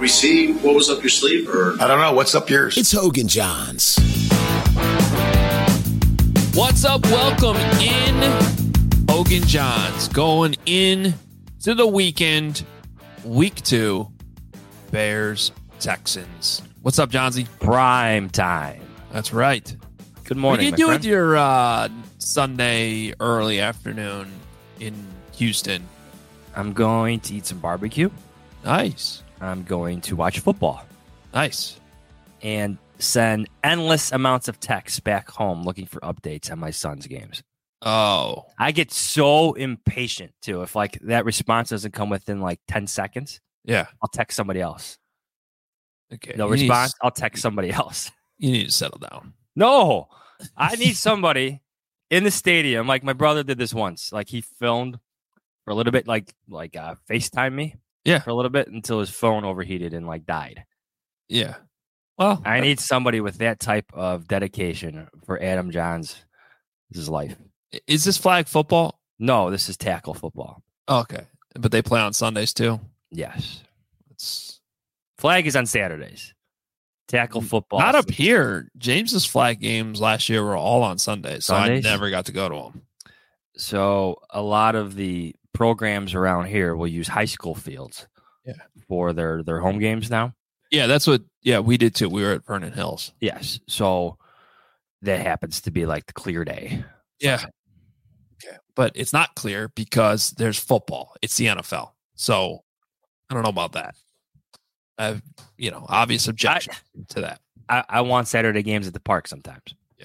we see what was up your sleeve? Or I don't know. What's up yours? It's Hogan Johns. What's up? Welcome in. Hogan Johns going in to the weekend. Week 2. Bears, Texans. What's up, Johnsy? Prime time. That's right. Good morning, What do you my do friend? with your Sunday early afternoon in Houston? I'm going to eat some barbecue. Nice. I'm going to watch football Nice. and send endless amounts of texts back home looking for updates on my son's games. Oh. I get so impatient, too. If, like, that response doesn't come within, like, 10 seconds, Yeah. I'll text somebody else. Okay. No You need response, to- I'll text somebody else. You need to settle down. No, I need somebody in the stadium. Like, my brother did this once. Like, he filmed for a little bit, like FaceTime me. Yeah. For a little bit until his phone overheated and, like, died. Yeah. Well, I need somebody with that type of dedication for Adam Johns' life. is this flag football? No, this is tackle football. Okay. But they play on Sundays too? Yes. It's Flag is on Saturdays. Tackle football. not up here. James's flag games last year were all on Sundays, so Sundays? I never got to go to them. So a lot of the programs around here will use high school fields for their home games now. Yeah, that's what. Yeah, we did too. We were at Vernon Hills. Yes. So that happens to be like the clear day. Yeah. Okay, but it's not clear because there's football. It's the NFL, so I don't know about that. I have, obvious objection to that. I want Saturday games at the park sometimes.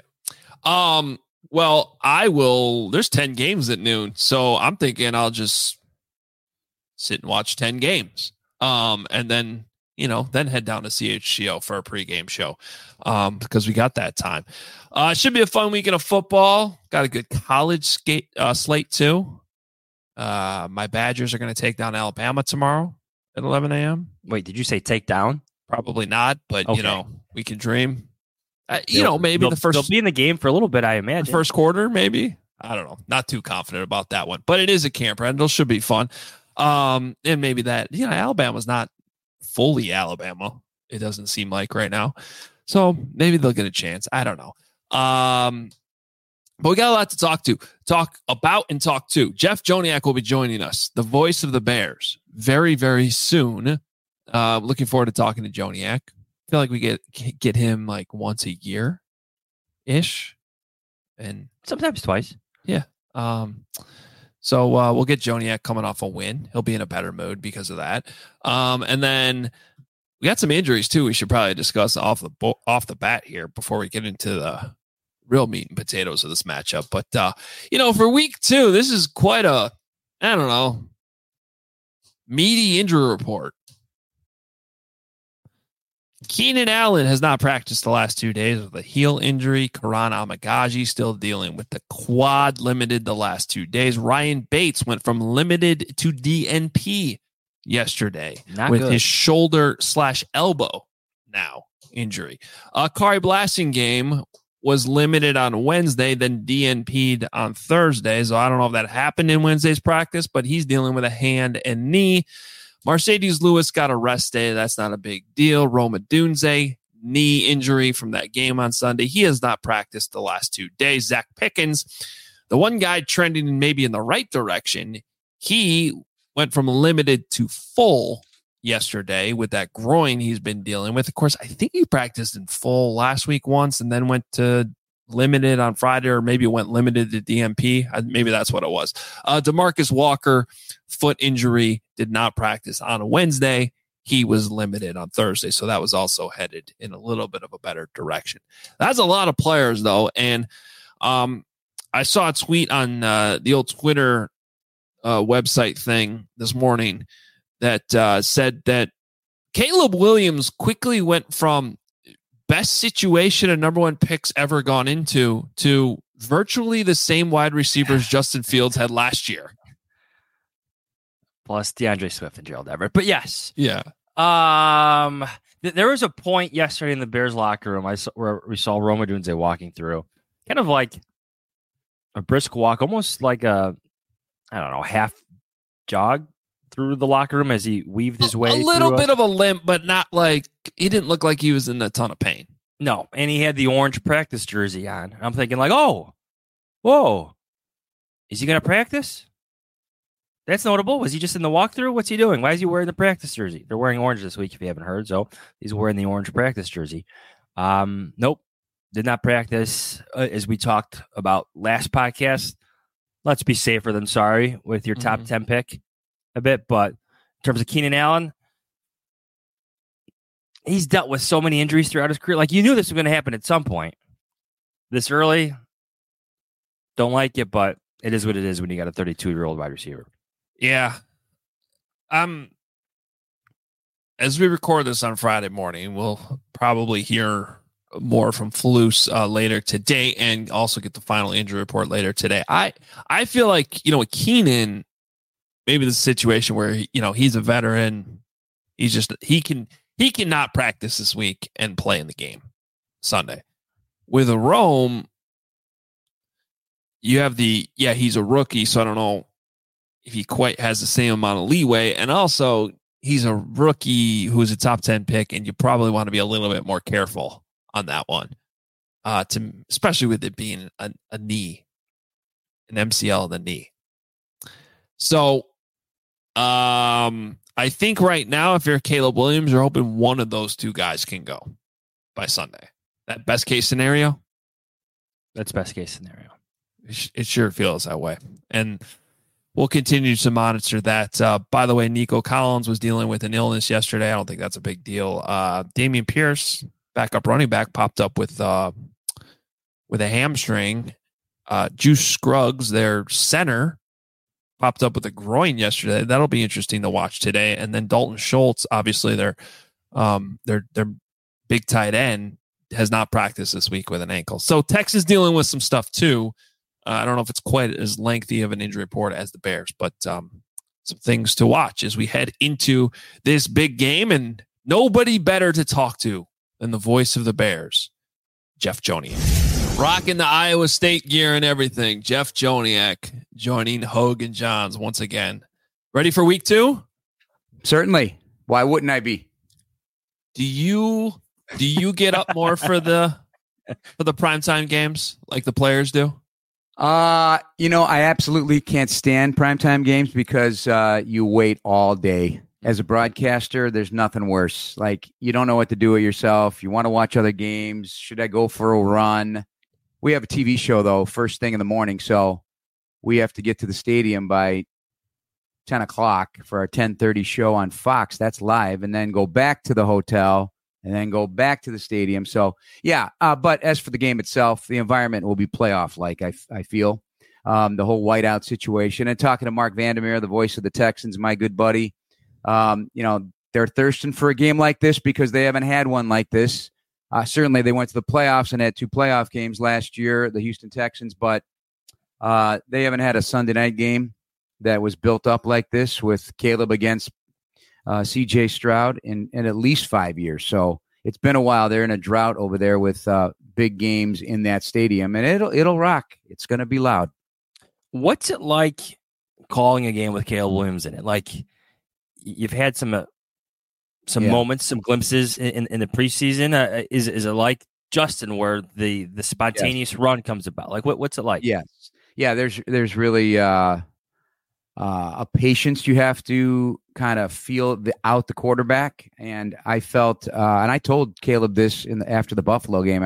Well, I will. There's 10 games at noon, so I'm thinking I'll just sit and watch 10 games. And then then head down to CHGO for a pregame show, because we got that time. It should be a fun weekend of football. Got a good college slate too. My Badgers are going to take down Alabama tomorrow at 11 a.m. Wait, did you say take down? Probably not, but Okay. we can dream. Maybe They'll they'll be in the game for a little bit, I the imagine. first quarter, maybe. I don't know. Not too confident about that one, but it is a camp rental. Should be fun. And maybe that, Alabama's not fully Alabama. It doesn't seem like right now. So maybe they'll get a chance. I don't know. But we got a lot to talk about and talk to. Jeff Joniak will be joining us, the voice of the Bears, very, very soon. Looking forward to talking to Joniak. I feel like we get him like once a year ish. And Sometimes twice. so we'll get Joniak coming off a win. He'll be in a better mood because of that. And then we got some injuries too. We should probably discuss off the bat here before we get into the real meat and potatoes of this matchup. But for week 2, this is quite a, I don't know, meaty injury report. Keenan Allen has not practiced the last 2 days with a heel injury. Karan Amagaji still dealing with the quad limited the last 2 days. Ryan Bates went from limited to DNP yesterday Not with good. his shoulder/elbow now injury. Kari Blasingame was limited on Wednesday, then DNP'd on Thursday. So I don't know if that happened in Wednesday's practice, but he's dealing with a hand and knee. Mercedes Lewis got a rest day. That's not a big deal. Roma Dunze, knee injury from that game on Sunday. He has not practiced the last 2 days. Zach Pickens, the one guy trending maybe in the right direction, he went from limited to full yesterday with that groin he's been dealing with. Of course, I think he practiced in full last week once and then went to limited on Friday, or maybe it went limited to DMP. Maybe that's what it was. DeMarcus Walker, foot injury, did not practice on a Wednesday. He was limited on Thursday, so that was also headed in a little bit of a better direction. That's a lot of players, though, and I saw a tweet on the old Twitter website thing this morning that said that Caleb Williams quickly went from best situation and number 1 picks ever gone into to virtually the same wide receivers Justin Fields had last year. Plus DeAndre Swift and Gerald Everett. But yes. Yeah. There was a point yesterday in the Bears locker room where we saw Roma Dunze walking through. Kind of like a brisk walk, almost like a, I don't know, half jog through the locker room as he weaved his way. A little bit of a limp, but not like he didn't look like he was in a ton of pain. No, and he had the orange practice jersey on. I'm thinking like, oh, whoa, is he going to practice? That's notable. Was he just in the walkthrough? What's he doing? Why is he wearing the practice jersey? They're wearing orange this week, if you haven't heard. So he's wearing the orange practice jersey. Nope, did not practice. As we talked about last podcast, let's be safer than sorry with your top 10 pick a bit. But in terms of Keenan Allen, he's dealt with so many injuries throughout his career. Like, you knew this was going to happen at some point. This early, don't like it, but it is what it is when you got a 32-year-old wide receiver. Yeah. As we record this on Friday morning, we'll probably hear more from Flus later today and also get the final injury report later today. I feel like, with Keenan, maybe the situation where, he's a veteran. He cannot practice this week and play in the game Sunday. With a Rome, you have he's a rookie, so I don't know if he quite has the same amount of leeway. And also, he's a rookie who's a top 10 pick, and you probably want to be a little bit more careful on that one, especially with it being a knee, an MCL in the knee. So, I think right now, if you're Caleb Williams, you're hoping one of those two guys can go by Sunday. That best case scenario? That's best case scenario. It sure feels that way. And we'll continue to monitor that. By the way, Nico Collins was dealing with an illness yesterday. I don't think that's a big deal. Dameon Pierce, backup running back, popped up with a hamstring. Juice Scruggs, their center, popped up with a groin yesterday. That'll be interesting to watch today. And then Dalton Schultz, obviously their big tight end, has not practiced this week with an ankle. So Texas dealing with some stuff too. I don't know if it's quite as lengthy of an injury report as the Bears, but some things to watch as we head into this big game. And nobody better to talk to than the voice of the Bears, Jeff Joniak. Rocking the Iowa State gear and everything. Jeff Joniak joining Hogue and Johns once again. Ready for week 2? Certainly. Why wouldn't I be? Do you get up more for the primetime games like the players do? I absolutely can't stand primetime games because you wait all day. As a broadcaster, there's nothing worse. Like, you don't know what to do with yourself. You want to watch other games. Should I go for a run? We have a TV show, though, first thing in the morning, so we have to get to the stadium by 10 o'clock for our 10:30 show on Fox. That's live, and then go back to the hotel and then go back to the stadium. So, yeah, but as for the game itself, the environment will be playoff-like, I feel. The whole whiteout situation. And talking to Mark Vandermeer, the voice of the Texans, my good buddy, they're thirsting for a game like this because they haven't had one like this. Certainly, they went to the playoffs and had 2 playoff games last year, the Houston Texans, but they haven't had a Sunday night game that was built up like this with Caleb against C.J. Stroud in at least 5 years. So it's been a while. They're in a drought over there with big games in that stadium, and it'll rock. It's going to be loud. What's it like calling a game with Caleb Williams in it? Like, you've had some moments, some glimpses in the preseason. Is it like Justin, where the spontaneous run comes about? Like, what's it like? Yes, yeah. There's really a patience you have to kind of feel out the quarterback, and I felt, and I told Caleb this after the Buffalo game.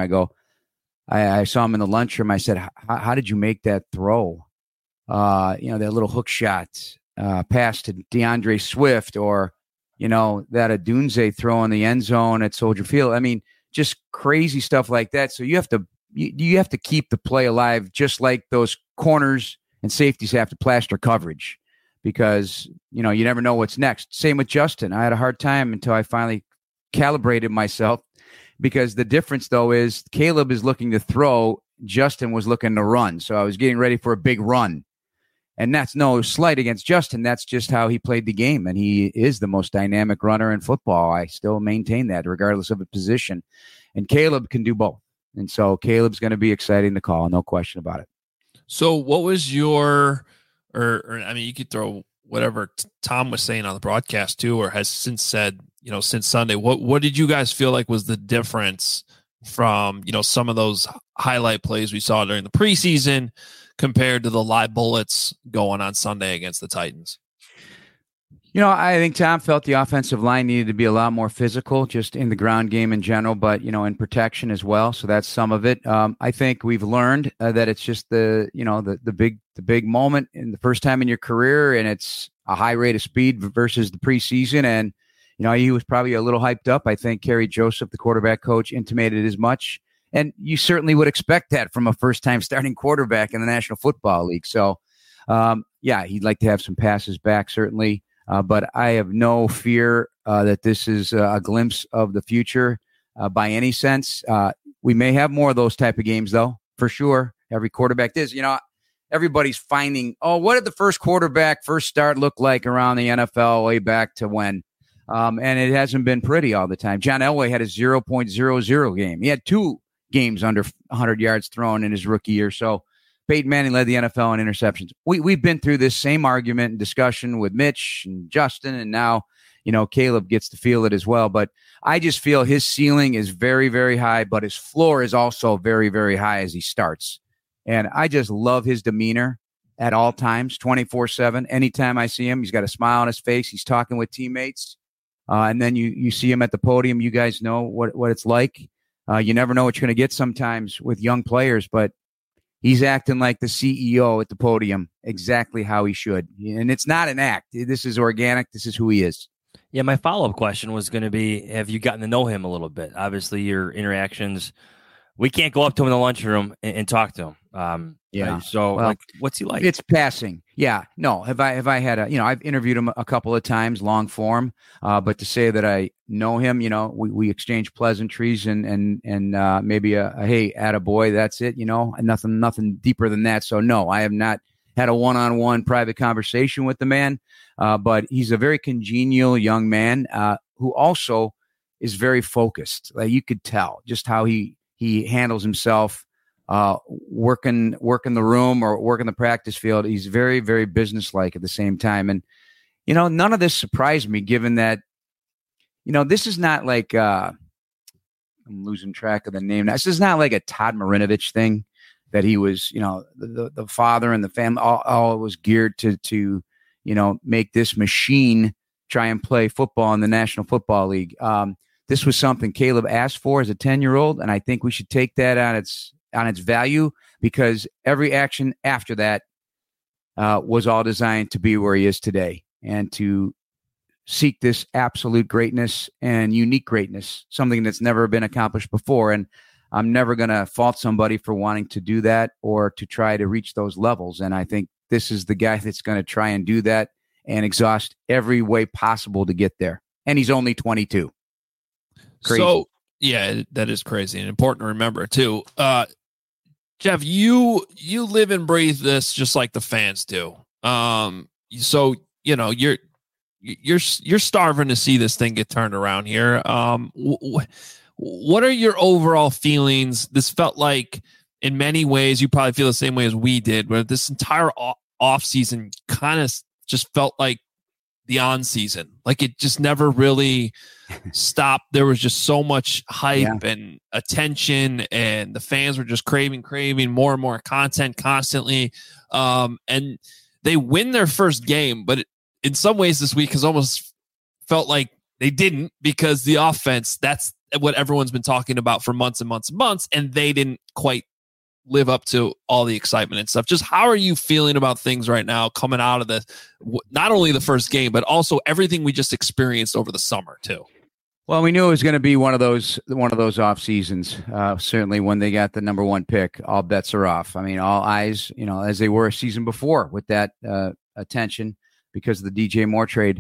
I saw him in the lunchroom. I said, "How did you make that throw? That little hook shot pass to DeAndre Swift, or that Adunze throw in the end zone at Soldier Field. I mean, just crazy stuff like that. So you have to keep the play alive, just like those corners and safeties have to plaster coverage, because you never know what's next. Same with Justin. I had a hard time until I finally calibrated myself, because the difference though is Caleb is looking to throw, Justin was looking to run. So I was getting ready for a big run. And that's no slight against Justin. That's just how he played the game. And he is the most dynamic runner in football. I still maintain that regardless of a position. And Caleb can do both. And so Caleb's going to be exciting to call, no question about it. So what was your, you could throw whatever Tom was saying on the broadcast too, or has since said, since Sunday. What did you guys feel like was the difference from, some of those highlight plays we saw during the preseason compared to the live bullets going on Sunday against the Titans? I think Tom felt the offensive line needed to be a lot more physical, just in the ground game in general, but, in protection as well. So that's some of it. I think we've learned that it's just the big moment in the first time in your career, and it's a high rate of speed versus the preseason. And, he was probably a little hyped up. I think Kerry Joseph, the quarterback coach, intimated as much. And you certainly would expect that from a first-time starting quarterback in the National Football League. So, he'd like to have some passes back, certainly. But I have no fear that this is a glimpse of the future by any sense. We may have more of those type of games, though, for sure. Every quarterback is. Everybody's finding, what did the first start look like around the NFL way back to when? And it hasn't been pretty all the time. John Elway had a 0.00 game. He had 2 games under 100 yards thrown in his rookie year. So Peyton Manning led the NFL in interceptions. We've been through this same argument and discussion with Mitch and Justin, and now, Caleb gets to feel it as well. But I just feel his ceiling is very, very high, but his floor is also very, very high as he starts. And I just love his demeanor at all times, 24/7. Anytime I see him, he's got a smile on his face. He's talking with teammates. And then you see him at the podium. You guys know what it's like. You never know what you're going to get sometimes with young players, but he's acting like the CEO at the podium, exactly how he should. And it's not an act. This is organic. This is who he is. Yeah, my follow-up question was going to be, have you gotten to know him a little bit? Obviously, your interactions, we can't go up to him in the lunchroom and talk to him. What's he like? It's passing. Yeah. No, have I had I've interviewed him a couple of times, long form, but to say that I know him, we exchange pleasantries and maybe a hey, attaboy, that's it, and nothing deeper than that. So no, I have not had a one-on-one private conversation with the man, but he's a very congenial young man who also is very focused. Like, you could tell just how he handles himself. Working the room or working the practice field. He's very, very businesslike at the same time. And, none of this surprised me, given that, this is not like, I'm losing track of the name. This is not like a Todd Marinovich thing that he was, the father and the family all was geared to, make this machine try and play football in the National Football League. This was something Caleb asked for as a 10-year-old. And I think we should take that on its value, because every action after that was all designed to be where he is today and to seek this absolute greatness and unique greatness, something that's never been accomplished before. And I'm never going to fault somebody for wanting to do that or to try to reach those levels. And I think this is the guy that's going to try and do that and exhaust every way possible to get there. And he's only 22. Crazy. So, yeah, that is crazy and important to remember too. Jeff, you live and breathe this just like the fans do. So you're starving to see this thing get turned around here. What are your overall feelings? This felt like, in many ways, you probably feel the same way as we did, where this entire off season kind of just felt like the on season. Like, it just never really stopped. There was just so much hype and attention, and the fans were just craving more and more content constantly. And they win their first game, but in some ways this week has almost felt like they didn't, because the offense, that's what everyone's been talking about for months and months and months, and they didn't quite live up to all the excitement and stuff. Just how are you feeling about things right now coming out of this, not only the first game, but also everything we just experienced over the summer too? Well, we knew it was going to be one of those off seasons. Certainly when they got the number 1 pick, all bets are off. I mean, all eyes, as they were a season before with that attention because of the DJ Moore trade.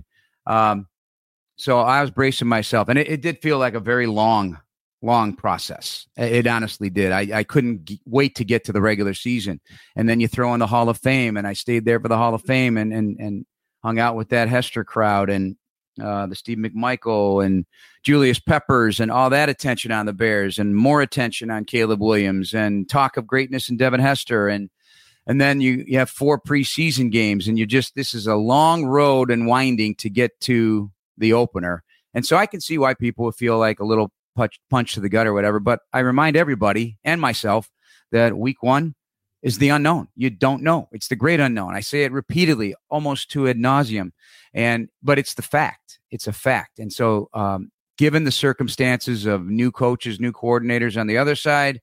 So I was bracing myself, and it did feel like a very long process. It honestly did. I couldn't wait to get to the regular season. And then you throw in the Hall of Fame, and I stayed there for the Hall of Fame and hung out with that Hester crowd and the Steve McMichael and Julius Peppers and all that attention on the Bears and more attention on Caleb Williams and talk of greatness and Devin Hester. And And then you have 4 preseason games, and this is a long road and winding to get to the opener. And so I can see why people would feel like a little punch to the gut or whatever. But I remind everybody and myself that week 1 is the unknown. You don't know. It's the great unknown. I say it repeatedly, almost to ad nauseum. But it's the fact. It's a fact. And so given the circumstances of new coaches, new coordinators on the other side,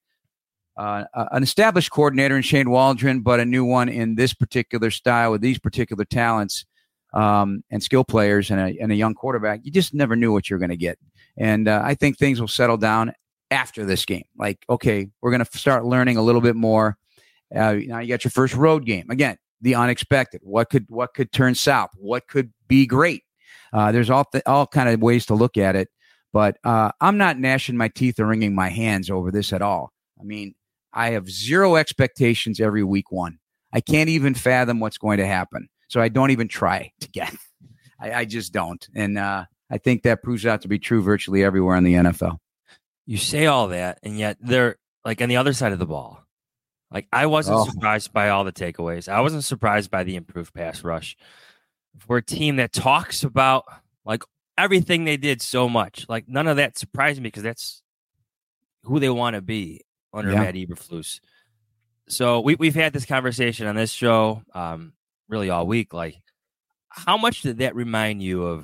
an established coordinator in Shane Waldron, but a new one in this particular style with these particular talents and skill players and a young quarterback, you just never knew what you're going to get. And I think things will settle down after this game. Like, okay, we're going to start learning a little bit more. Now you got your first road game. Again, the unexpected. What could turn south? What could be great? There's all kind of ways to look at it. But I'm not gnashing my teeth or wringing my hands over this at all. I mean, I have zero expectations every week 1. I can't even fathom what's going to happen. So I don't even try to get. I just don't. And I think that proves out to be true virtually everywhere in the NFL. You say all that, and yet they're like on the other side of the ball. Like, I wasn't surprised by all the takeaways. I wasn't surprised by the improved pass rush. For a team that talks about like everything they did so much, like none of that surprised me because that's who they want to be under Matt Eberflus. So we've had this conversation on this show really all week. Like, how much did that remind you of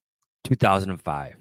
2005,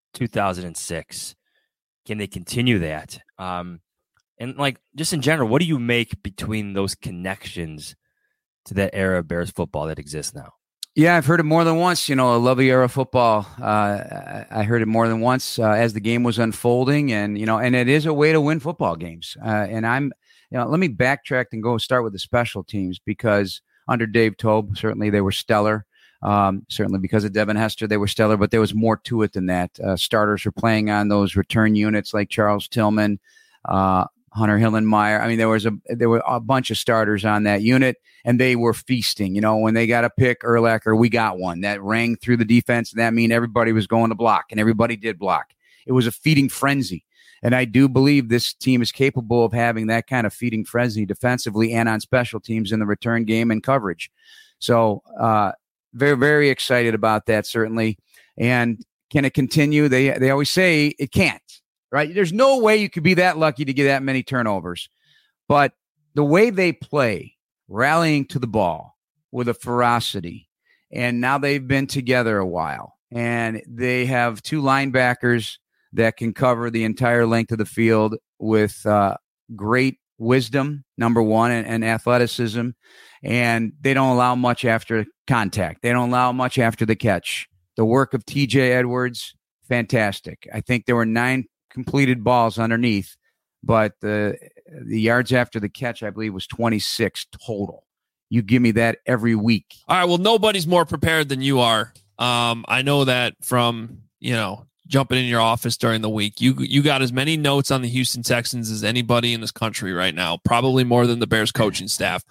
2006? Can they continue that? And like, just in general, what do you make between those connections to that era of Bears football that exists now? Yeah, I've heard it more than once. I love the era of football. I heard it more than once as the game was unfolding, and and it is a way to win football games. And let me backtrack and go start with the special teams, because under Dave Toub, certainly they were stellar. Certainly because of Devin Hester, they were stellar, but there was more to it than that. Starters were playing on those return units like Charles Tillman, Hunter Hillenmeyer. I mean, there were a bunch of starters on that unit, and they were feasting. When they got a pick, Urlacher, we got one. That rang through the defense, and that meant everybody was going to block, and everybody did block. It was a feeding frenzy. And I do believe this team is capable of having that kind of feeding frenzy defensively and on special teams in the return game and coverage. So very, very excited about that, certainly. And can it continue? They always say it can't. Right? There's no way you could be that lucky to get that many turnovers. But the way they play, rallying to the ball with a ferocity, and now they've been together a while, and they have 2 linebackers that can cover the entire length of the field with great wisdom, number one, and athleticism, and they don't allow much after contact. They don't allow much after the catch. The work of TJ Edwards, fantastic. I think there were 9 completed balls underneath, but the yards after the catch, I believe, was 26 total. You give me that every week. All right. Well, nobody's more prepared than you are. I know that from, jumping in your office during the week. You got as many notes on the Houston Texans as anybody in this country right now, probably more than the Bears coaching staff.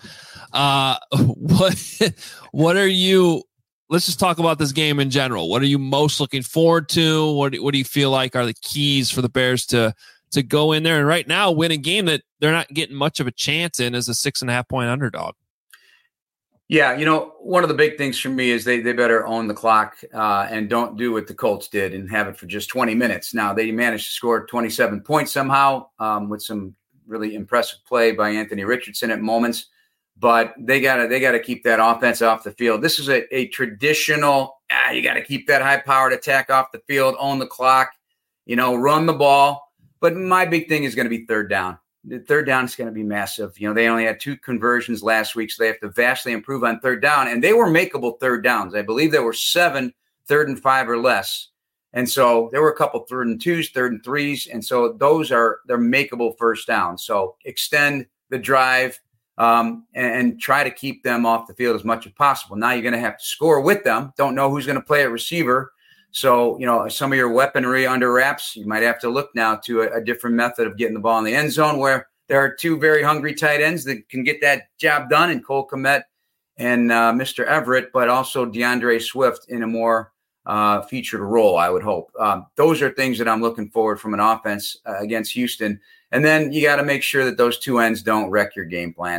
What are you... Let's just talk about this game in general. What are you most looking forward to? What do you feel like are the keys for the Bears to go in there and right now win a game that they're not getting much of a chance in as a 6.5 point underdog? Yeah, one of the big things for me is they better own the clock and don't do what the Colts did and have it for just 20 minutes. Now, they managed to score 27 points somehow with some really impressive play by Anthony Richardson at moments. But they gotta keep that offense off the field. This is a traditional, you got to keep that high-powered attack off the field, own the clock, run the ball. But my big thing is going to be third down. The third down is going to be massive. They only had 2 conversions last week, so they have to vastly improve on third down. And they were makeable third downs. I believe there were 7 3rd and 5 or less. And so there were a couple 3rd and 2s, 3rd and 3s. And so they're makeable first downs. So extend the drive. And try to keep them off the field as much as possible. Now you're going to have to score with them. Don't know who's going to play at receiver. So, some of your weaponry under wraps, you might have to look now to a different method of getting the ball in the end zone where there are 2 very hungry tight ends that can get that job done in Cole Kmet and Mr. Everett, but also DeAndre Swift in a more featured role, I would hope. Those are things that I'm looking forward from an offense against Houston. And then you got to make sure that those 2 ends don't wreck your game plan.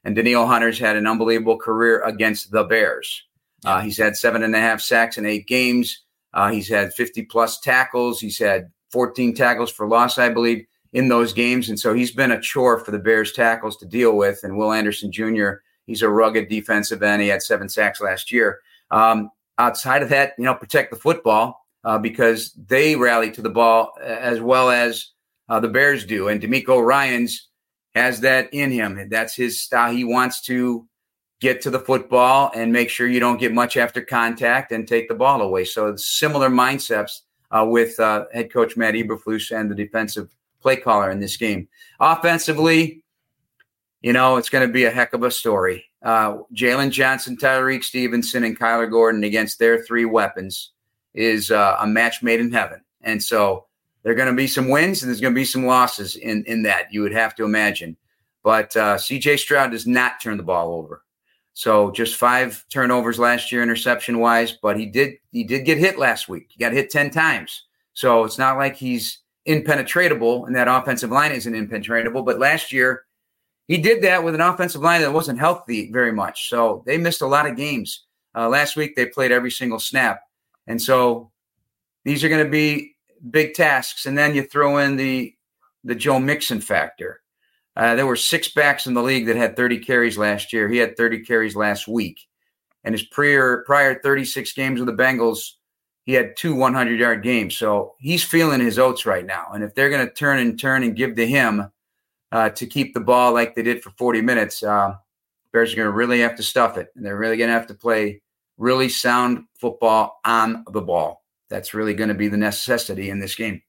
And Danielle Hunter's had an unbelievable career against the Bears. He's had 7.5 sacks in 8 games. He's had 50-plus tackles. He's had 14 tackles for loss, I believe, in those games. And so he's been a chore for the Bears tackles to deal with. And Will Anderson Jr., he's a rugged defensive end. He had 7 sacks last year. Outside of that, protect the football because they rally to the ball as well as the Bears do. And D'Amico Ryans has that in him. That's his style. He wants to get to the football and make sure you don't get much after contact and take the ball away. So it's similar mindsets with head coach Matt Eberflus and the defensive play caller in this game. Offensively, it's going to be a heck of a story. Jalen Johnson, Tyreek Stevenson, and Kyler Gordon against their 3 weapons is a match made in heaven. And so there are going to be some wins and there's going to be some losses in that, you would have to imagine. But C.J. Stroud does not turn the ball over. So just 5 turnovers last year, interception-wise, but he did get hit last week. He got hit 10 times. So it's not like he's impenetrable, and that offensive line isn't impenetrable. But last year, he did that with an offensive line that wasn't healthy very much. So they missed a lot of games. Last week, they played every single snap. And so these are going to be big tasks. And then you throw in the Joe Mixon factor. There were 6 backs in the league that had 30 carries last year. He had 30 carries last week. And his prior 36 games with the Bengals, he had 2 100-yard games. So he's feeling his oats right now. And if they're going to turn and give to him to keep the ball like they did for 40 minutes, Bears are going to really have to stuff it. And they're really going to have to play really sound football on the ball. That's really going to be the necessity in this game.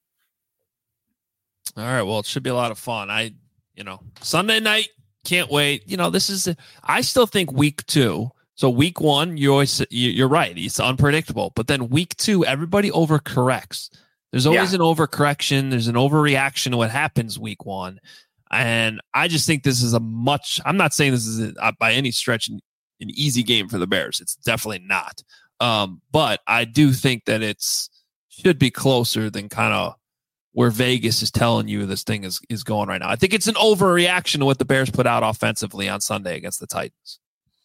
All right. Well, it should be a lot of fun. Sunday night, can't wait. I still think week 2. So week 1, you're right. It's unpredictable. But then week 2, everybody overcorrects. There's always an overcorrection. There's an overreaction to what happens week 1. And I just think this is I'm not saying this is by any stretch an easy game for the Bears. It's definitely not. But I do think that should be closer than kind of where Vegas is telling you this thing is going right now. I think it's an overreaction to what the Bears put out offensively on Sunday against the Titans.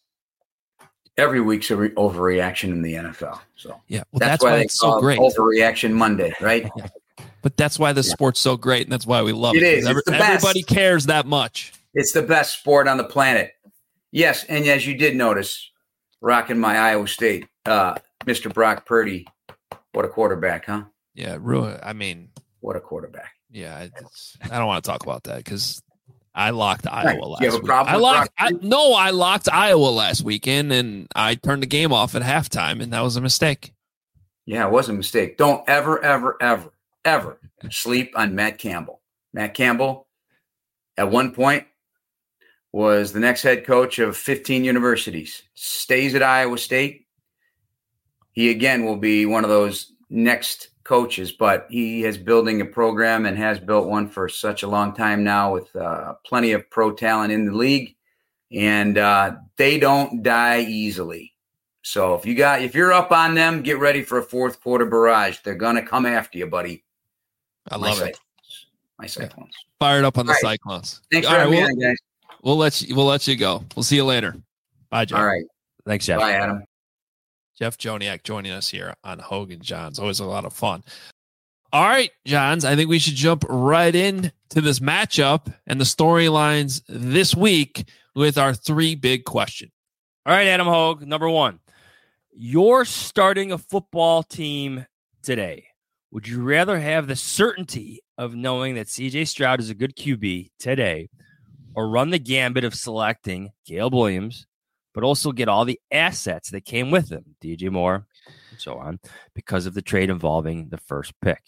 Every week's an overreaction in the NFL. So yeah, well, that's why it's so great. Overreaction Monday, right? Yeah. But that's why the sport's so great, and that's why we love it. It is. Everybody cares that much. It's the best sport on the planet. Yes, and as you did notice, rocking my Iowa State, Mr. Brock Purdy. What a quarterback, huh? Yeah, what a quarterback. Yeah, I don't want to talk about that because I locked Iowa last week. You have a problem I locked Iowa last weekend, and I turned the game off at halftime, and that was a mistake. Yeah, it was a mistake. Don't ever, ever, ever, ever sleep on Matt Campbell. Matt Campbell, at one point, was the next head coach of 15 universities, stays at Iowa State. He, again, will be one of those next coaches, but he is building a program and has built one for such a long time now with plenty of pro talent in the league, and they don't die easily. So if you're up on them, get ready for a fourth quarter barrage. They're gonna come after you, buddy. I love it. My Cyclones. Fired up on the Cyclones. Thanks for having me on, guys. We'll let you go. We'll see you later. Bye, Jeff. All right. Thanks, Jeff. Bye, Adam. Jeff Joniak joining us here on Hogan Johns. Always a lot of fun. All right, Johns, I think we should jump right in to this matchup and the storylines this week with our 3 big questions. All right, Adam Hogue, number 1. You're starting a football team today. Would you rather have the certainty of knowing that C.J. Stroud is a good QB today or run the gambit of selecting Caleb Williams, but also get all the assets that came with him, DJ Moore, and so on, because of the trade involving the first pick?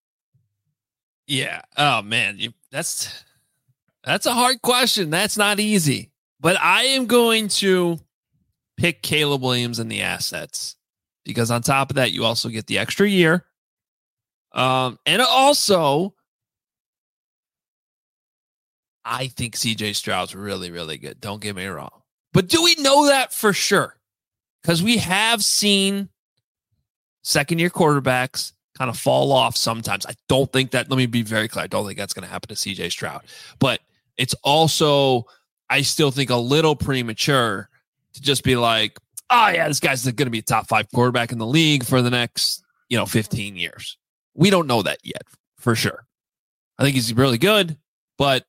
Yeah. Oh, man. That's a hard question. That's not easy. But I am going to pick Caleb Williams and the assets because on top of that, you also get the extra year. And also, I think CJ Stroud's really, really good. Don't get me wrong. But do we know that for sure? Because we have seen second-year quarterbacks kind of fall off sometimes. I don't think that, let me be very clear, I don't think that's going to happen to CJ Stroud. But it's also I still think a little premature to just be like, oh yeah, this guy's going to be a top 5 quarterback in the league for the next, 15 years. We don't know that yet for sure. I think he's really good, but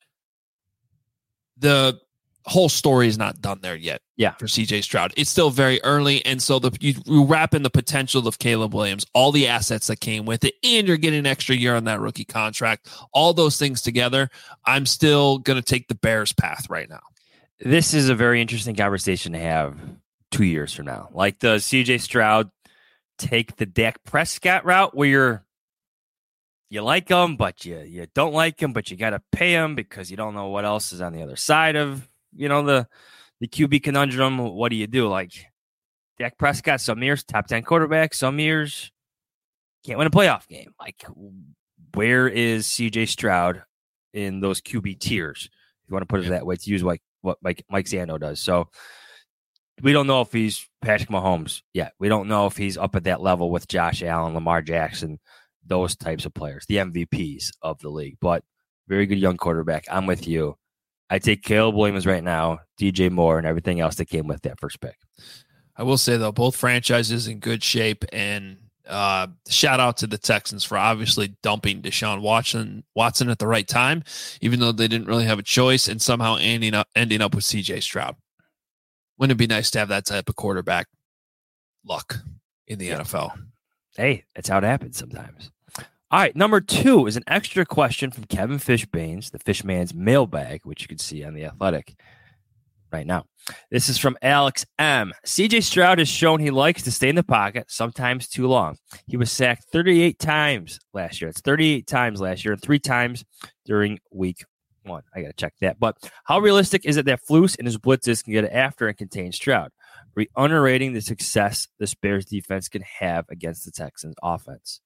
the whole story is not done there yet. Yeah. For CJ Stroud. It's still very early. And so you wrap in the potential of Caleb Williams, all the assets that came with it, and you're getting an extra year on that rookie contract. All those things together, I'm still going to take the Bears path right now. This is a very interesting conversation to have 2 years from now. Like, does CJ Stroud take the Dak Prescott route where you like him, but you don't like him, but you got to pay him because you don't know what else is on the other side of, the QB conundrum? What do you do? Like, Dak Prescott, some years, top 10 quarterback, some years can't win a playoff game. Like, where is CJ Stroud in those QB tiers? If you want to put it that way, to use what Mike Zando does. So we don't know if he's Patrick Mahomes yet. We don't know if he's up at that level with Josh Allen, Lamar Jackson, those types of players, the MVPs of the league. But very good young quarterback. I'm with you. I take Caleb Williams right now, DJ Moore, and everything else that came with that first pick. I will say, though, both franchises in good shape, and shout out to the Texans for obviously dumping Deshaun Watson at the right time, even though they didn't really have a choice, and somehow ending up with CJ Stroud. Wouldn't it be nice to have that type of quarterback luck in the NFL? Hey, that's how it happens sometimes. All right, number 2 is an extra question from Kevin Fishbanes, the Fishman's mailbag, which you can see on The Athletic right now. This is from Alex M. CJ Stroud has shown he likes to stay in the pocket, sometimes too long. He was sacked 38 times last year. It's 38 times last year and 3 times during week 1. I got to check that. But how realistic is it that Flus and his blitzes can get after and contain Stroud? Are we underrating the success this Bears defense can have against the Texans offense?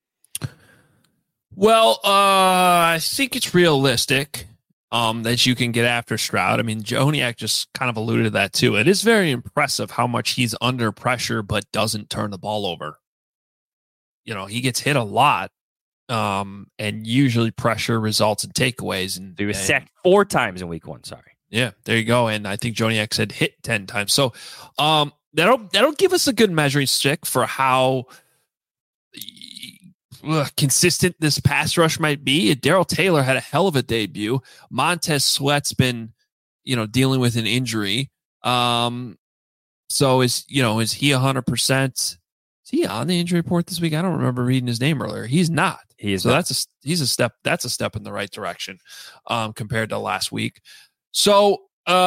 Well, I think it's realistic that you can get after Stroud. I mean, Joniak just kind of alluded to that too. It is very impressive how much he's under pressure but doesn't turn the ball over. He gets hit a lot, and usually pressure results in takeaways. And he was sacked 4 times in week 1. Sorry. Yeah, there you go. And I think Joniak said hit 10 times. So that'll give us a good measuring stick for how consistent this pass rush might be. Darrell Taylor had a hell of a debut. Montez Sweat's been, dealing with an injury. So is he 100%? Is he on the injury report this week? I don't remember reading his name earlier. He's not. He is. So not. That's a step in the right direction compared to last week. So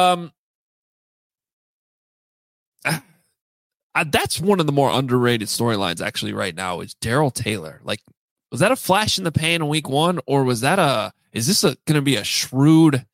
that's one of the more underrated storylines actually right now is Darrell Taylor. Like, was that a flash in the pan in week 1, or is this going to be a shrewd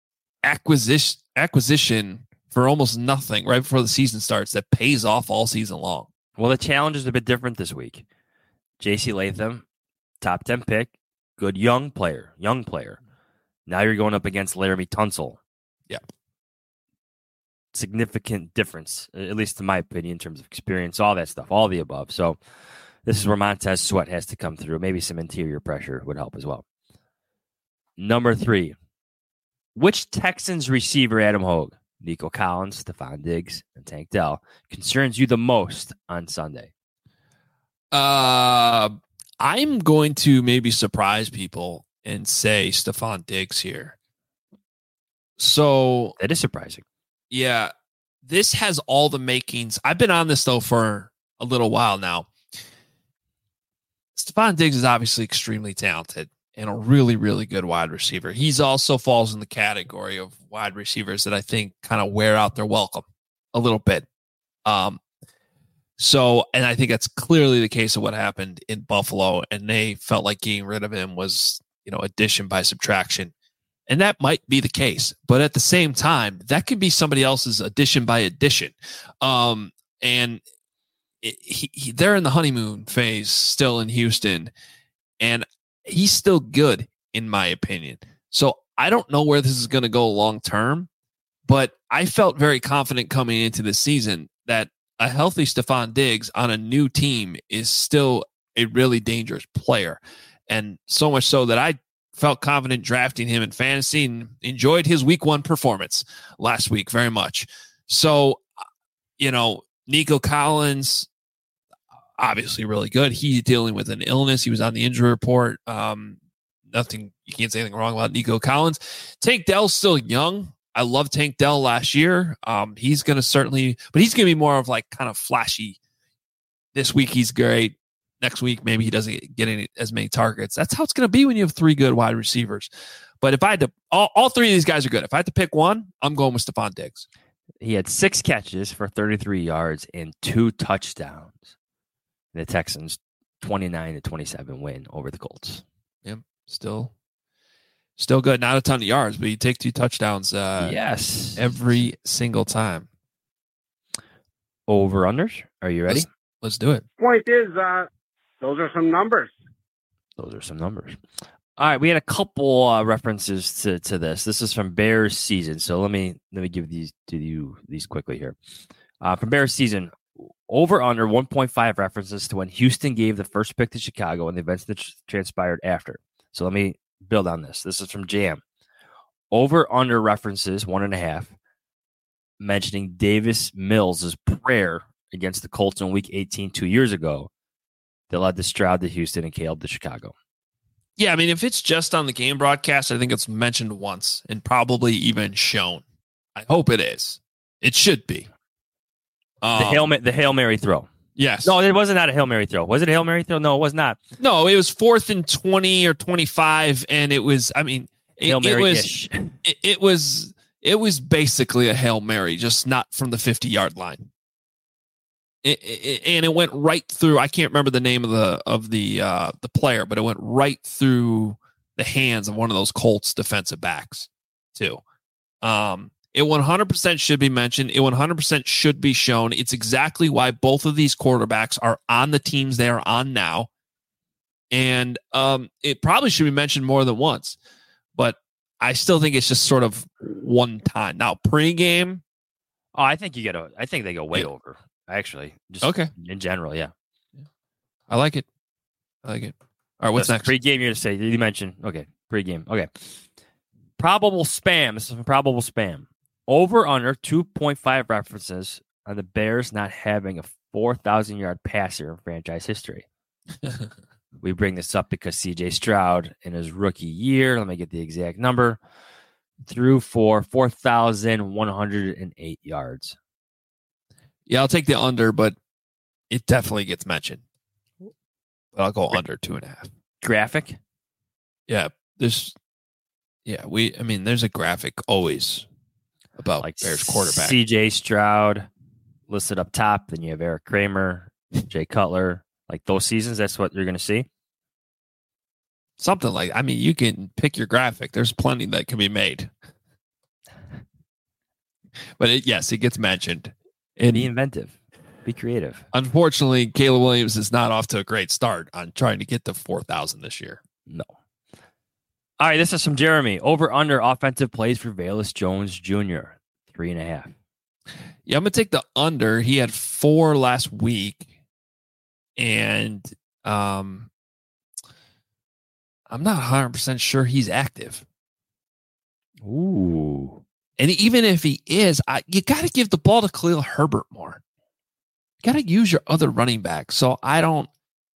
acquisition for almost nothing right before the season starts that pays off all season long? Well, the challenge is a bit different this week. J.C. Latham, top 10 pick, good young player. Now you're going up against Laramie Tunsil. Yeah. Significant difference, at least in my opinion, in terms of experience, all that stuff, all the above. So this is where Montez Sweat has to come through. Maybe some interior pressure would help as well. Number 3, which Texans receiver, Adam Hogue, Nico Collins, Stephon Diggs, and Tank Dell, concerns you the most on Sunday? I'm going to maybe surprise people and say Stephon Diggs here. So that is surprising. Yeah, this has all the makings. I've been on this, though, for a little while now. Stephon Diggs is obviously extremely talented and a really, really good wide receiver. He's also falls in the category of wide receivers that I think kind of wear out their welcome a little bit. And I think that's clearly the case of what happened in Buffalo, and they felt like getting rid of him was, addition by subtraction. And that might be the case, but at the same time, that could be somebody else's addition by addition. And they're in the honeymoon phase still in Houston, and he's still good in my opinion. So I don't know where this is going to go long term, but I felt very confident coming into the season that a healthy Stephon Diggs on a new team is still a really dangerous player. And so much so that I felt confident drafting him in fantasy and enjoyed his week 1 performance last week very much. So, Nico Collins, obviously really good. He's dealing with an illness. He was on the injury report. Nothing, you can't say anything wrong about Nico Collins. Tank Dell's still young. I love Tank Dell last year. He's going to be more of like kind of flashy. This week he's great. Next week, maybe he doesn't get as many targets. That's how it's going to be when you have 3 good wide receivers. But if I had to, all 3 of these guys are good. If I had to pick one, I'm going with Stephon Diggs. He had 6 catches for 33 yards and 2 touchdowns. The Texans 29-27 win over the Colts. Yeah, still good. Not a ton of yards, but you take 2 touchdowns. Yes, every single time. Over unders. Are you ready? Let's do it. Point is, those are some numbers. Those are some numbers. All right, we had a couple references to this. This is from Bears season, so let me give these to you quickly here. From Bears season, over under 1.5 references to when Houston gave the first pick to Chicago and the events that transpired after. So let me build on this. This is from Jam. Over under references 1.5, mentioning Davis Mills' prayer against the Colts in Week 18 2 years ago that led to Stroud to Houston and Caleb to Chicago. Yeah, I mean, if it's just on the game broadcast, I think it's mentioned once and probably even shown. I hope it is. It should be. The Hail Mary throw. Yes. No, it wasn't a Hail Mary throw. Was it a Hail Mary throw? No, it was not. No, it was 4th and 20 or 25, and it was. I mean, Hail Mary-ish. It was basically a Hail Mary, just not from the 50-yard line. And it went right through. I can't remember the name of the player, but it went right through the hands of one of those Colts defensive backs too. It 100% should be mentioned. It 100% should be shown. It's exactly why both of these quarterbacks are on the teams they are on now, and it probably should be mentioned more than once. But I still think it's just sort of one time. Now pregame. Oh, I think they go way over. Actually, just okay. In general, yeah. I like it. All right, what's next? Pre-game, you're to say. You mentioned, okay, pre-game. Okay. Probable spam. This is from Probable Spam. Over under 2.5 references on the Bears not having a 4,000-yard passer in franchise history. We bring this up because C.J. Stroud, in his rookie year, let me get the exact number, threw for 4,108 yards. Yeah, I'll take the under, but it definitely gets mentioned. But I'll go under 2.5. Graphic? Yeah, there's a graphic always about like Bears quarterback. C.J. Stroud listed up top. Then you have Eric Kramer, Jay Cutler. Like those seasons, that's what you're going to see. Something like, I mean, you can pick your graphic. There's plenty that can be made. But it gets mentioned. And be inventive. Be creative. Unfortunately, Caleb Williams is not off to a great start on trying to get to 4,000 this year. No. All right, this is from Jeremy. Over under offensive plays for Velus Jones Jr. 3.5. Yeah, I'm going to take the under. He had 4 last week. And I'm not 100% sure he's active. Ooh. And even if he is, you got to give the ball to Khalil Herbert more. You got to use your other running back. So either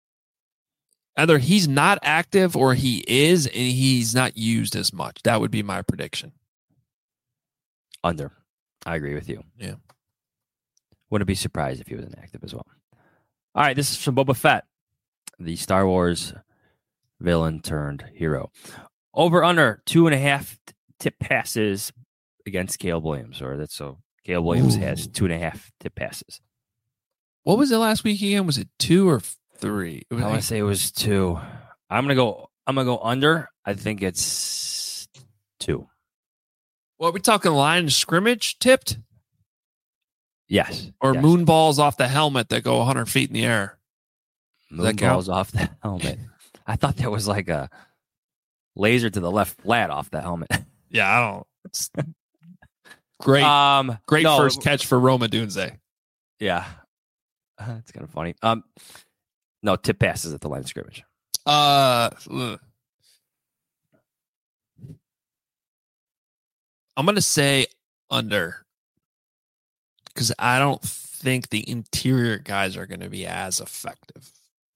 he's not active or he is, and he's not used as much. That would be my prediction. Under. I agree with you. Yeah. Wouldn't be surprised if he was inactive as well. All right, this is from Boba Fett, the Star Wars villain turned hero. Over under 2.5 tip passes against Caleb Williams, Caleb Williams has 2.5 tip passes. What was it last week again? Was it 2 or 3? I want to say it was 2. I'm gonna go under. I think it's 2. Well, are we talking line of scrimmage tipped? Yes. Or yes. moon balls off the helmet that go 100 feet in the air? Moon balls off the helmet. I thought that was like a laser to the left flat off the helmet. Yeah, I don't. It's great. Great first catch for Roma Dunze. Yeah, it's kind of funny. No tip passes at the line of scrimmage. I'm going to say under, because I don't think the interior guys are going to be as effective.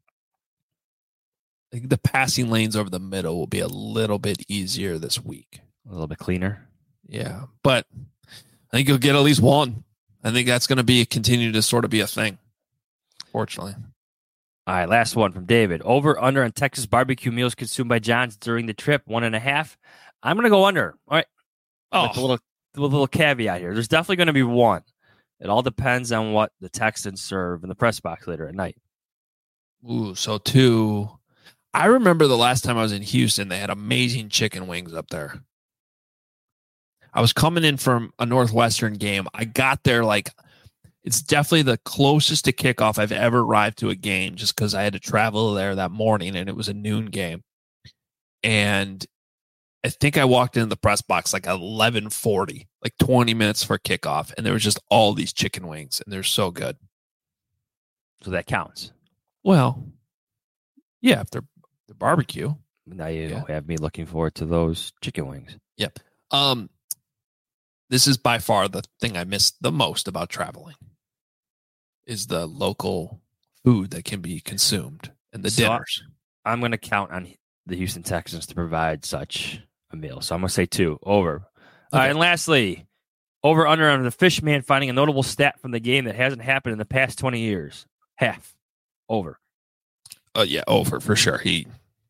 I think the passing lanes over the middle will be a little bit easier this week. A little bit cleaner. Yeah, but I think you'll get at least one. I think that's going to continue to sort of be a thing, fortunately. All right, last one from David. Over, under on Texas barbecue meals consumed by Johns during the trip, 1.5. I'm going to go under. All right. With a little caveat here. There's definitely going to be one. It all depends on what the Texans serve in the press box later at night. Ooh, so 2. I remember the last time I was in Houston, they had amazing chicken wings up there. I was coming in from a Northwestern game. I got there it's definitely the closest to kickoff I've ever arrived to a game, just because I had to travel there that morning and it was a noon game. And I think I walked into the press box 11:40, 20 minutes for kickoff, and there was just all these chicken wings, and they're so good. So that counts. Well, yeah, if they're barbecue. Now you have me looking forward to those chicken wings. Yep. This is by far the thing I miss the most about traveling, is the local food that can be consumed and the dinners. I'm going to count on the Houston Texans to provide such a meal. So I'm going to say 2. Over. Okay. All right, and lastly, over, under on the Fishman finding a notable stat from the game that hasn't happened in the past 20 years. Half. Over. Yeah, over for sure. You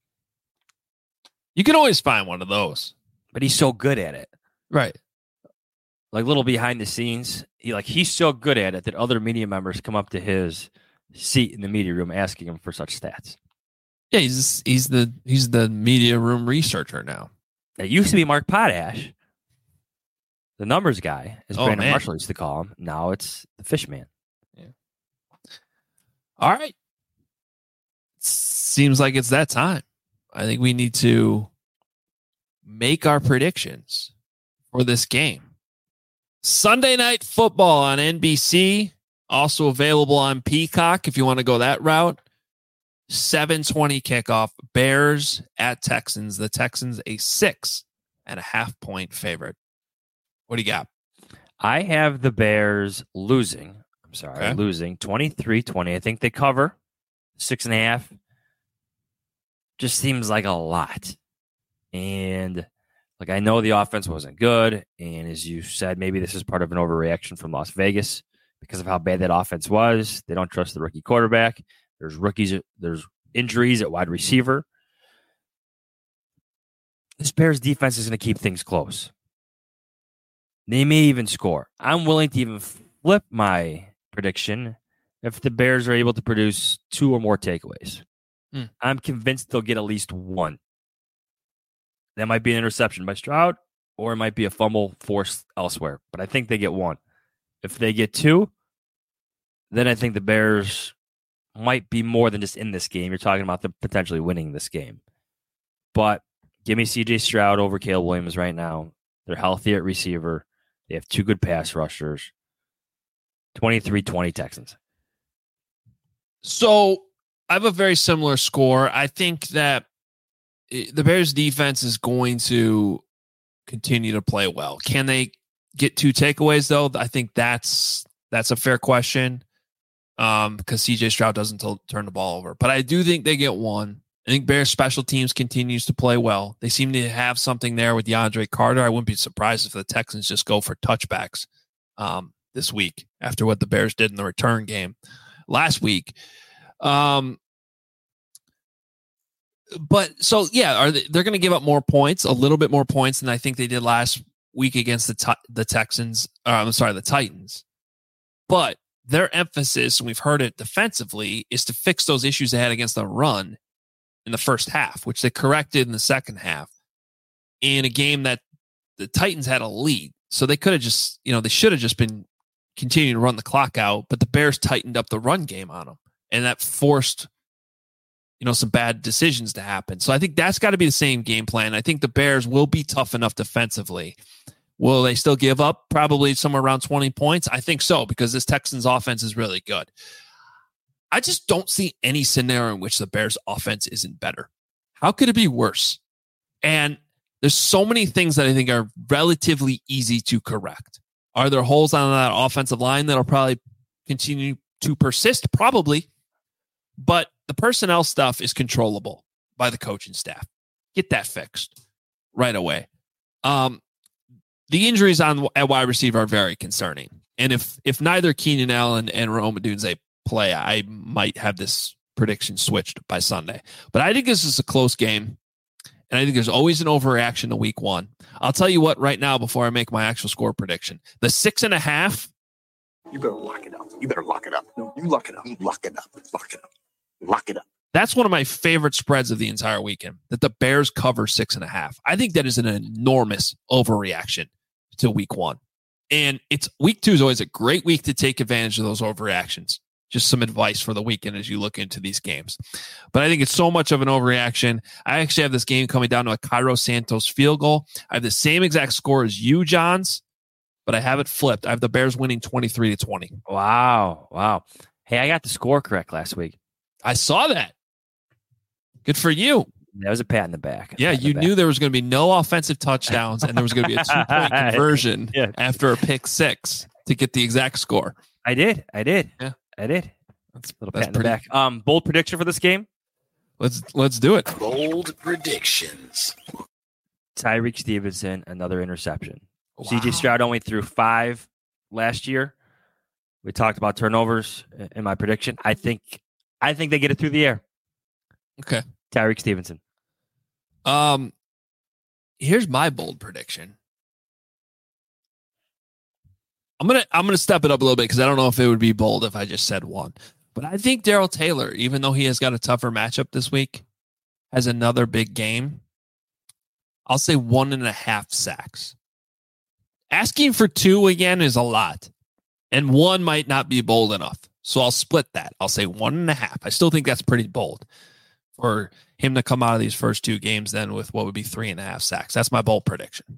can always find one of those. But he's so good at it. Right. Little behind the scenes. He's so good at it that other media members come up to his seat in the media room asking him for such stats. Yeah, he's the media room researcher now. It used to be Mark Potash, the numbers guy, as Brandon Marshall used to call him. Now it's the Fishman. Yeah. All right. Seems like it's that time. I think we need to make our predictions for this game. Sunday Night Football on NBC, also available on Peacock if you want to go that route. 7:20 kickoff. Bears at Texans. The Texans a 6.5-point favorite. What do you got? I have the Bears losing. Losing 23-20. I think they cover 6.5. Just seems like a lot. And I know the offense wasn't good. And as you said, maybe this is part of an overreaction from Las Vegas because of how bad that offense was. They don't trust the rookie quarterback. There's injuries at wide receiver. This Bears defense is going to keep things close. They may even score. I'm willing to even flip my prediction if the Bears are able to produce 2 or more takeaways. I'm convinced they'll get at least 1. That might be an interception by Stroud, or it might be a fumble forced elsewhere. But I think they get 1. If they get 2, then I think the Bears might be more than just in this game. You're talking about them potentially winning this game. But give me C.J. Stroud over Caleb Williams right now. They're healthy at receiver. They have 2 good pass rushers. 23-20 Texans. So I have a very similar score. I think that the Bears defense is going to continue to play well. Can they get 2 takeaways though? I think that's a fair question. Because CJ Stroud doesn't turn the ball over, but I do think they get 1. I think Bears special teams continues to play well. They seem to have something there with DeAndre Carter. I wouldn't be surprised if the Texans just go for touchbacks this week after what the Bears did in the return game last week. But so yeah, they're going to give up more points, a little bit more points than I think they did last week against the Texans. The Titans. But their emphasis, and we've heard it defensively, is to fix those issues they had against the run in the first half, which they corrected in the second half in a game that the Titans had a lead. So they could have just, they should have just been continuing to run the clock out, but the Bears tightened up the run game on them, and that forced, some bad decisions to happen. So I think that's got to be the same game plan. I think the Bears will be tough enough defensively. Will they still give up probably somewhere around 20 points? I think so, because this Texans offense is really good. I just don't see any scenario in which the Bears offense isn't better. How could it be worse? And There's so many things that I think are relatively easy to correct. Are there holes on that offensive line that'll probably continue to persist? Probably. But the personnel stuff is controllable by the coaching staff. Get that fixed right away. The injuries at wide receiver are very concerning. And if neither Keenan Allen and Rome Odunze play, I might have this prediction switched by Sunday. But I think this is a close game. And I think there's always an overreaction to week one. I'll tell you what right now before I make my actual score prediction. The 6.5. You better lock it up. You better lock it up. No, you lock it up. You lock it up. Lock it up. Lock it up. That's one of my favorite spreads of the entire weekend, that the Bears cover 6.5. I think that is an enormous overreaction to week one. And week two is always a great week to take advantage of those overreactions. Just some advice for the weekend as you look into these games. But I think it's so much of an overreaction. I actually have this game coming down to a Cairo Santos field goal. I have the same exact score as you, Johns, but I have it flipped. I have the Bears winning 23-20. Wow. Hey, I got the score correct last week. I saw that. Good for you. That was a pat in the back. Yeah, you knew there was going to be no offensive touchdowns and there was going to be a 2-point conversion after a pick six to get the exact score. I did. Yeah. I did. That's a little pat in the back. Bold prediction for this game? Let's do it. Bold predictions. Tyreek Stevenson, another interception. Wow. CJ Stroud only threw 5 last year. We talked about turnovers in my prediction. I think they get it through the air. Okay. Tyreek Stevenson. Here's my bold prediction. I'm gonna step it up a little bit because I don't know if it would be bold if I just said one. But I think Darrell Taylor, even though he has got a tougher matchup this week, has another big game. I'll say 1.5 sacks. Asking for 2 again is a lot. And 1 might not be bold enough. So I'll split that. I'll say 1.5. I still think that's pretty bold for him to come out of these first 2 games then with what would be 3.5 sacks. That's my bold prediction.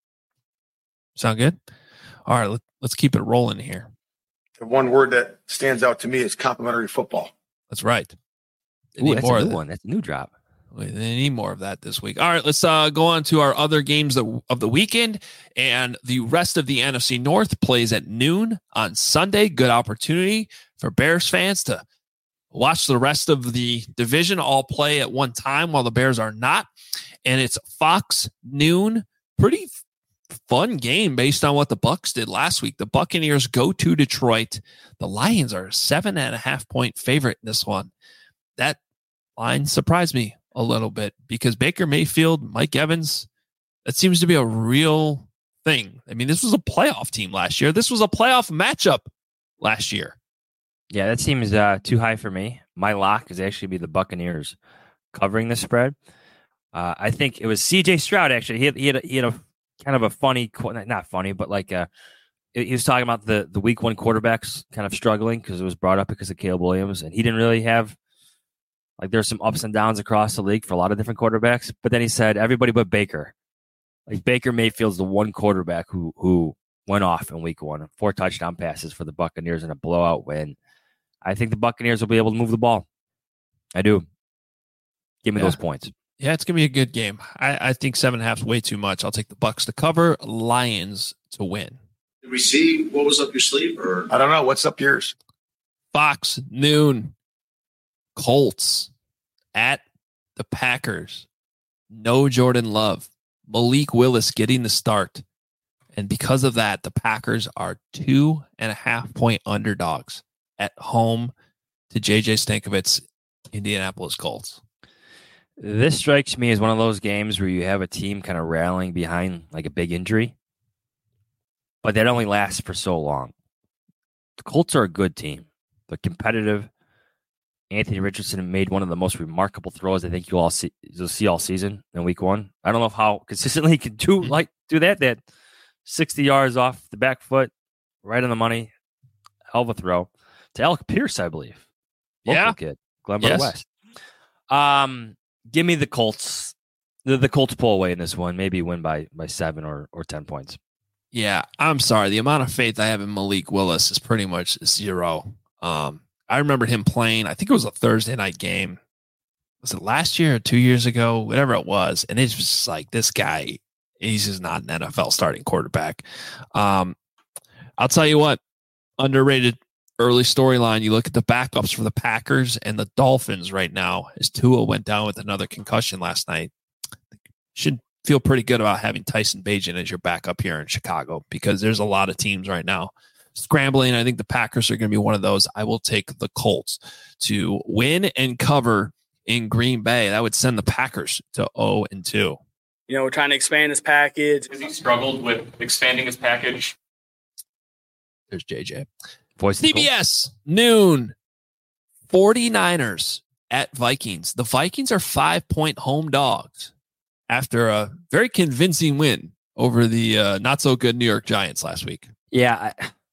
Sound good? All right, let's keep it rolling here. The one word that stands out to me is complimentary football. That's right. Ooh, that's a new one. That's a new drop. They need more of that this week. All right, let's go on to our other games of the weekend. And the rest of the NFC North plays at noon on Sunday. Good opportunity for Bears fans to watch the rest of the division all play at one time while the Bears are not. And it's Fox noon. Pretty fun game based on what the Bucs did last week. The Buccaneers go to Detroit. The Lions are a 7.5-point favorite in this one. That line surprised me a little bit because Baker Mayfield, Mike Evans, that seems to be a real thing. I mean, this was a playoff team last year. This was a playoff matchup last year. Yeah, that seems too high for me. My lock is actually be the Buccaneers covering the spread. I think it was CJ Stroud, actually. He had a kind of a funny, not funny, but like he was talking about the week one quarterbacks kind of struggling because it was brought up because of Caleb Williams, and he didn't really have, like, there's some ups and downs across the league for a lot of different quarterbacks. But then he said everybody but Baker. Like, Baker Mayfield's the one quarterback who went off in week one. 4 touchdown passes for the Buccaneers in a blowout win. I think the Buccaneers will be able to move the ball. I do. Give me those points. Yeah, it's going to be a good game. I think 7.5 is way too much. I'll take the Bucs to cover, Lions to win. Did we see what was up your sleeve? Or I don't know. What's up yours? Fox, noon. Colts at the Packers. No Jordan Love. Malik Willis getting the start. And because of that, the Packers are 2.5-point underdogs at home to J.J. Stankovic's Indianapolis Colts. This strikes me as one of those games where you have a team kind of rallying behind like a big injury, but that only lasts for so long. The Colts are a good team. They're competitive. Anthony Richardson made one of the most remarkable throws I think you'll see all season in week one. I don't know how consistently he can do that 60 yards off the back foot, right on the money. Hell of a throw to Alec Pierce, I believe. Local kid, Glenboro West. Give me the Colts. The Colts pull away in this one. Maybe win by 7 or 10 points. Yeah, I'm sorry. The amount of faith I have in Malik Willis is pretty much 0. I remember him playing, I think it was a Thursday night game was it last year or 2 years ago, whatever it was. And it's just like, this guy, he's just not an NFL starting quarterback. I'll tell you what, underrated early storyline. You look at the backups for the Packers and the Dolphins right now, as Tua went down with another concussion last night. Should feel pretty good about having Tyson Bagent as your backup here in Chicago, because there's a lot of teams right now scrambling. I think the Packers are going to be one of those. I will take the Colts to win and cover in Green Bay. That would send the Packers to 0-2. We're trying to expand his package. Has he struggled with expanding his package? There's JJ. Voice of the CBS, noon, 49ers at Vikings. The Vikings are 5-point home dogs after a very convincing win over the not-so-good New York Giants last week. Yeah,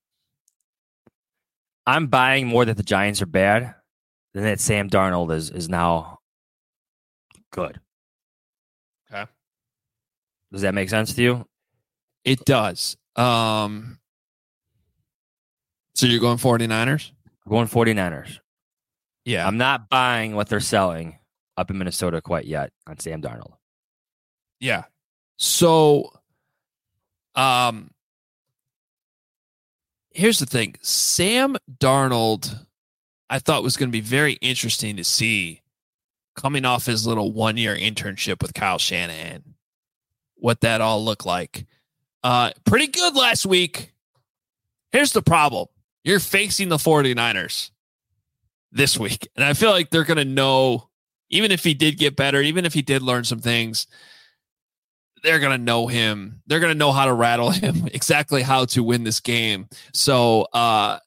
I'm buying more that the Giants are bad than that Sam Darnold is now good. Okay. Does that make sense to you? It does. So you're going 49ers? I'm going 49ers. Yeah. I'm not buying what they're selling up in Minnesota quite yet on Sam Darnold. Yeah. So, here's the thing. Sam Darnold, I thought was going to be very interesting to see coming off his little 1-year internship with Kyle Shanahan, what that all looked like. Pretty good last week. Here's the problem. You're facing the 49ers this week. And I feel like they're going to know, even if he did get better, even if he did learn some things, they're going to know him. They're going to know how to rattle him, exactly how to win this game. So I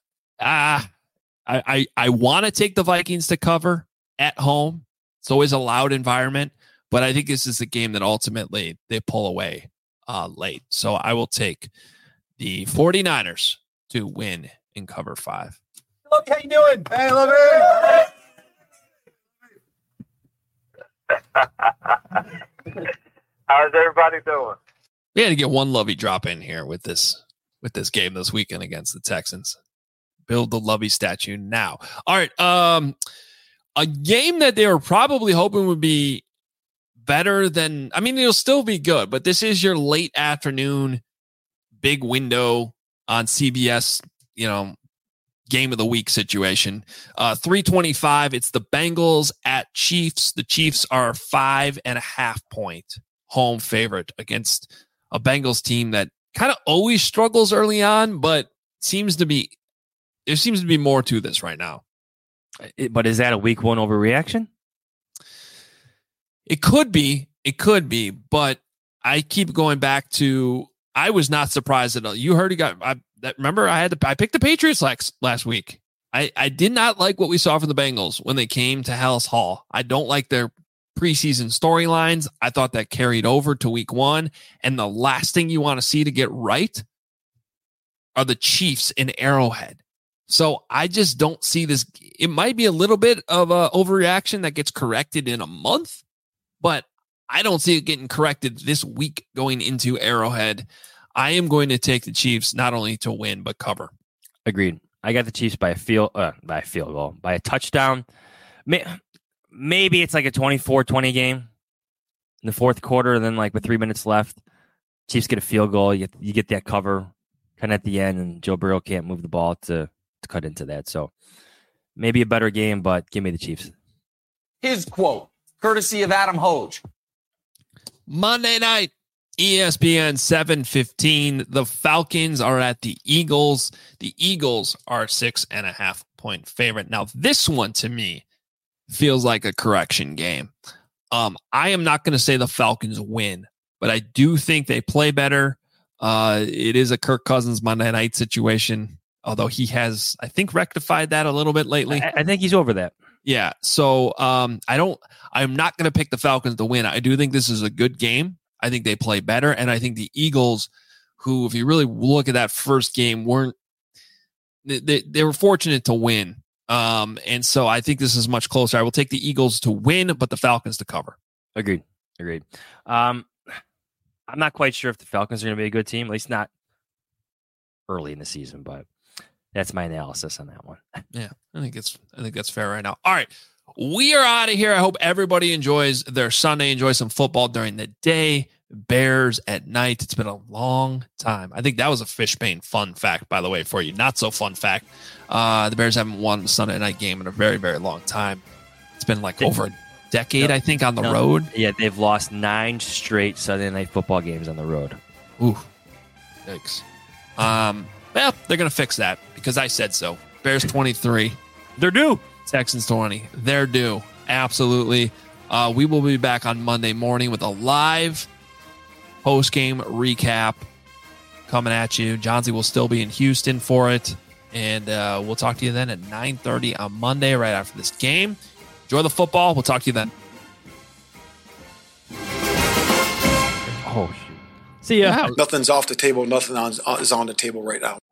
want to take the Vikings to cover at home. It's always a loud environment, but I think this is a game that ultimately they pull away late. So I will take the 49ers to win and cover 5. Look, how you doing? Hey, Lovey. How's everybody doing? We had to get one Lovey drop in here with this game this weekend against the Texans. Build the Lovey statue now. All right. A game that they were probably hoping would be better than, I mean, it'll still be good, but this is your late afternoon big window on CBS, game of the week situation. 3:25. It's the Bengals at Chiefs. The Chiefs are 5.5-point home favorite against a Bengals team that kind of always struggles early on, but there seems to be more to this right now. But is that a week 1 overreaction? It could be, but I keep going back to, I was not surprised at all. You heard remember I picked the Patriots last week. I did not like what we saw from the Bengals when they came to Hallis Hall. I don't like their preseason storylines. I thought that carried over to week 1. And the last thing you want to see to get right are the Chiefs in Arrowhead. So I just don't see this. It might be a little bit of a overreaction that gets corrected in a month, but I don't see it getting corrected this week going into Arrowhead. I am going to take the Chiefs not only to win, but cover. Agreed. I got the Chiefs by a field goal, by a touchdown. Maybe it's like a 24-20 game in the fourth quarter, and then like with 3 minutes left, Chiefs get a field goal. You get that cover kind of at the end, and Joe Burrow can't move the ball to cut into that. So maybe a better game, but give me the Chiefs. His quote, courtesy of Adam Hoge. Monday night, ESPN 7:15. The Falcons are at the Eagles. The Eagles are 6.5-point favorite. Now, this one to me feels like a correction game. I am not going to say the Falcons win, but I do think they play better. It is a Kirk Cousins Monday night situation, although he has, I think, rectified that a little bit lately. I think he's over that. Yeah. So I'm not going to pick the Falcons to win. I do think this is a good game. I think they play better. And I think the Eagles, who, if you really look at that first game, they were fortunate to win. And so I think this is much closer. I will take the Eagles to win, but the Falcons to cover. Agreed. I'm not quite sure if the Falcons are going to be a good team, at least not early in the season, but that's my analysis on that one. Yeah, I think that's fair right now. All right. We are out of here. I hope everybody enjoys their Sunday, enjoy some football during the day, Bears at night. It's been a long time. I think that was a Fishbane fun fact, by the way, for you. Not so fun fact. The Bears haven't won a Sunday night game in a very, very long time. It's been like over a decade, I think, on the road. Yeah, they've lost 9 straight Sunday night football games on the road. Ooh, yikes. Well, they're going to fix that because I said so. Bears 23. They're due. Texans 20. They're due. Absolutely. We will be back on Monday morning with a live post-game recap coming at you. Johnsy will still be in Houston for it. And we'll talk to you then at 9:30 on Monday right after this game. Enjoy the football. We'll talk to you then. Oh, shoot. See ya. Nothing's off the table. Nothing is on the table right now.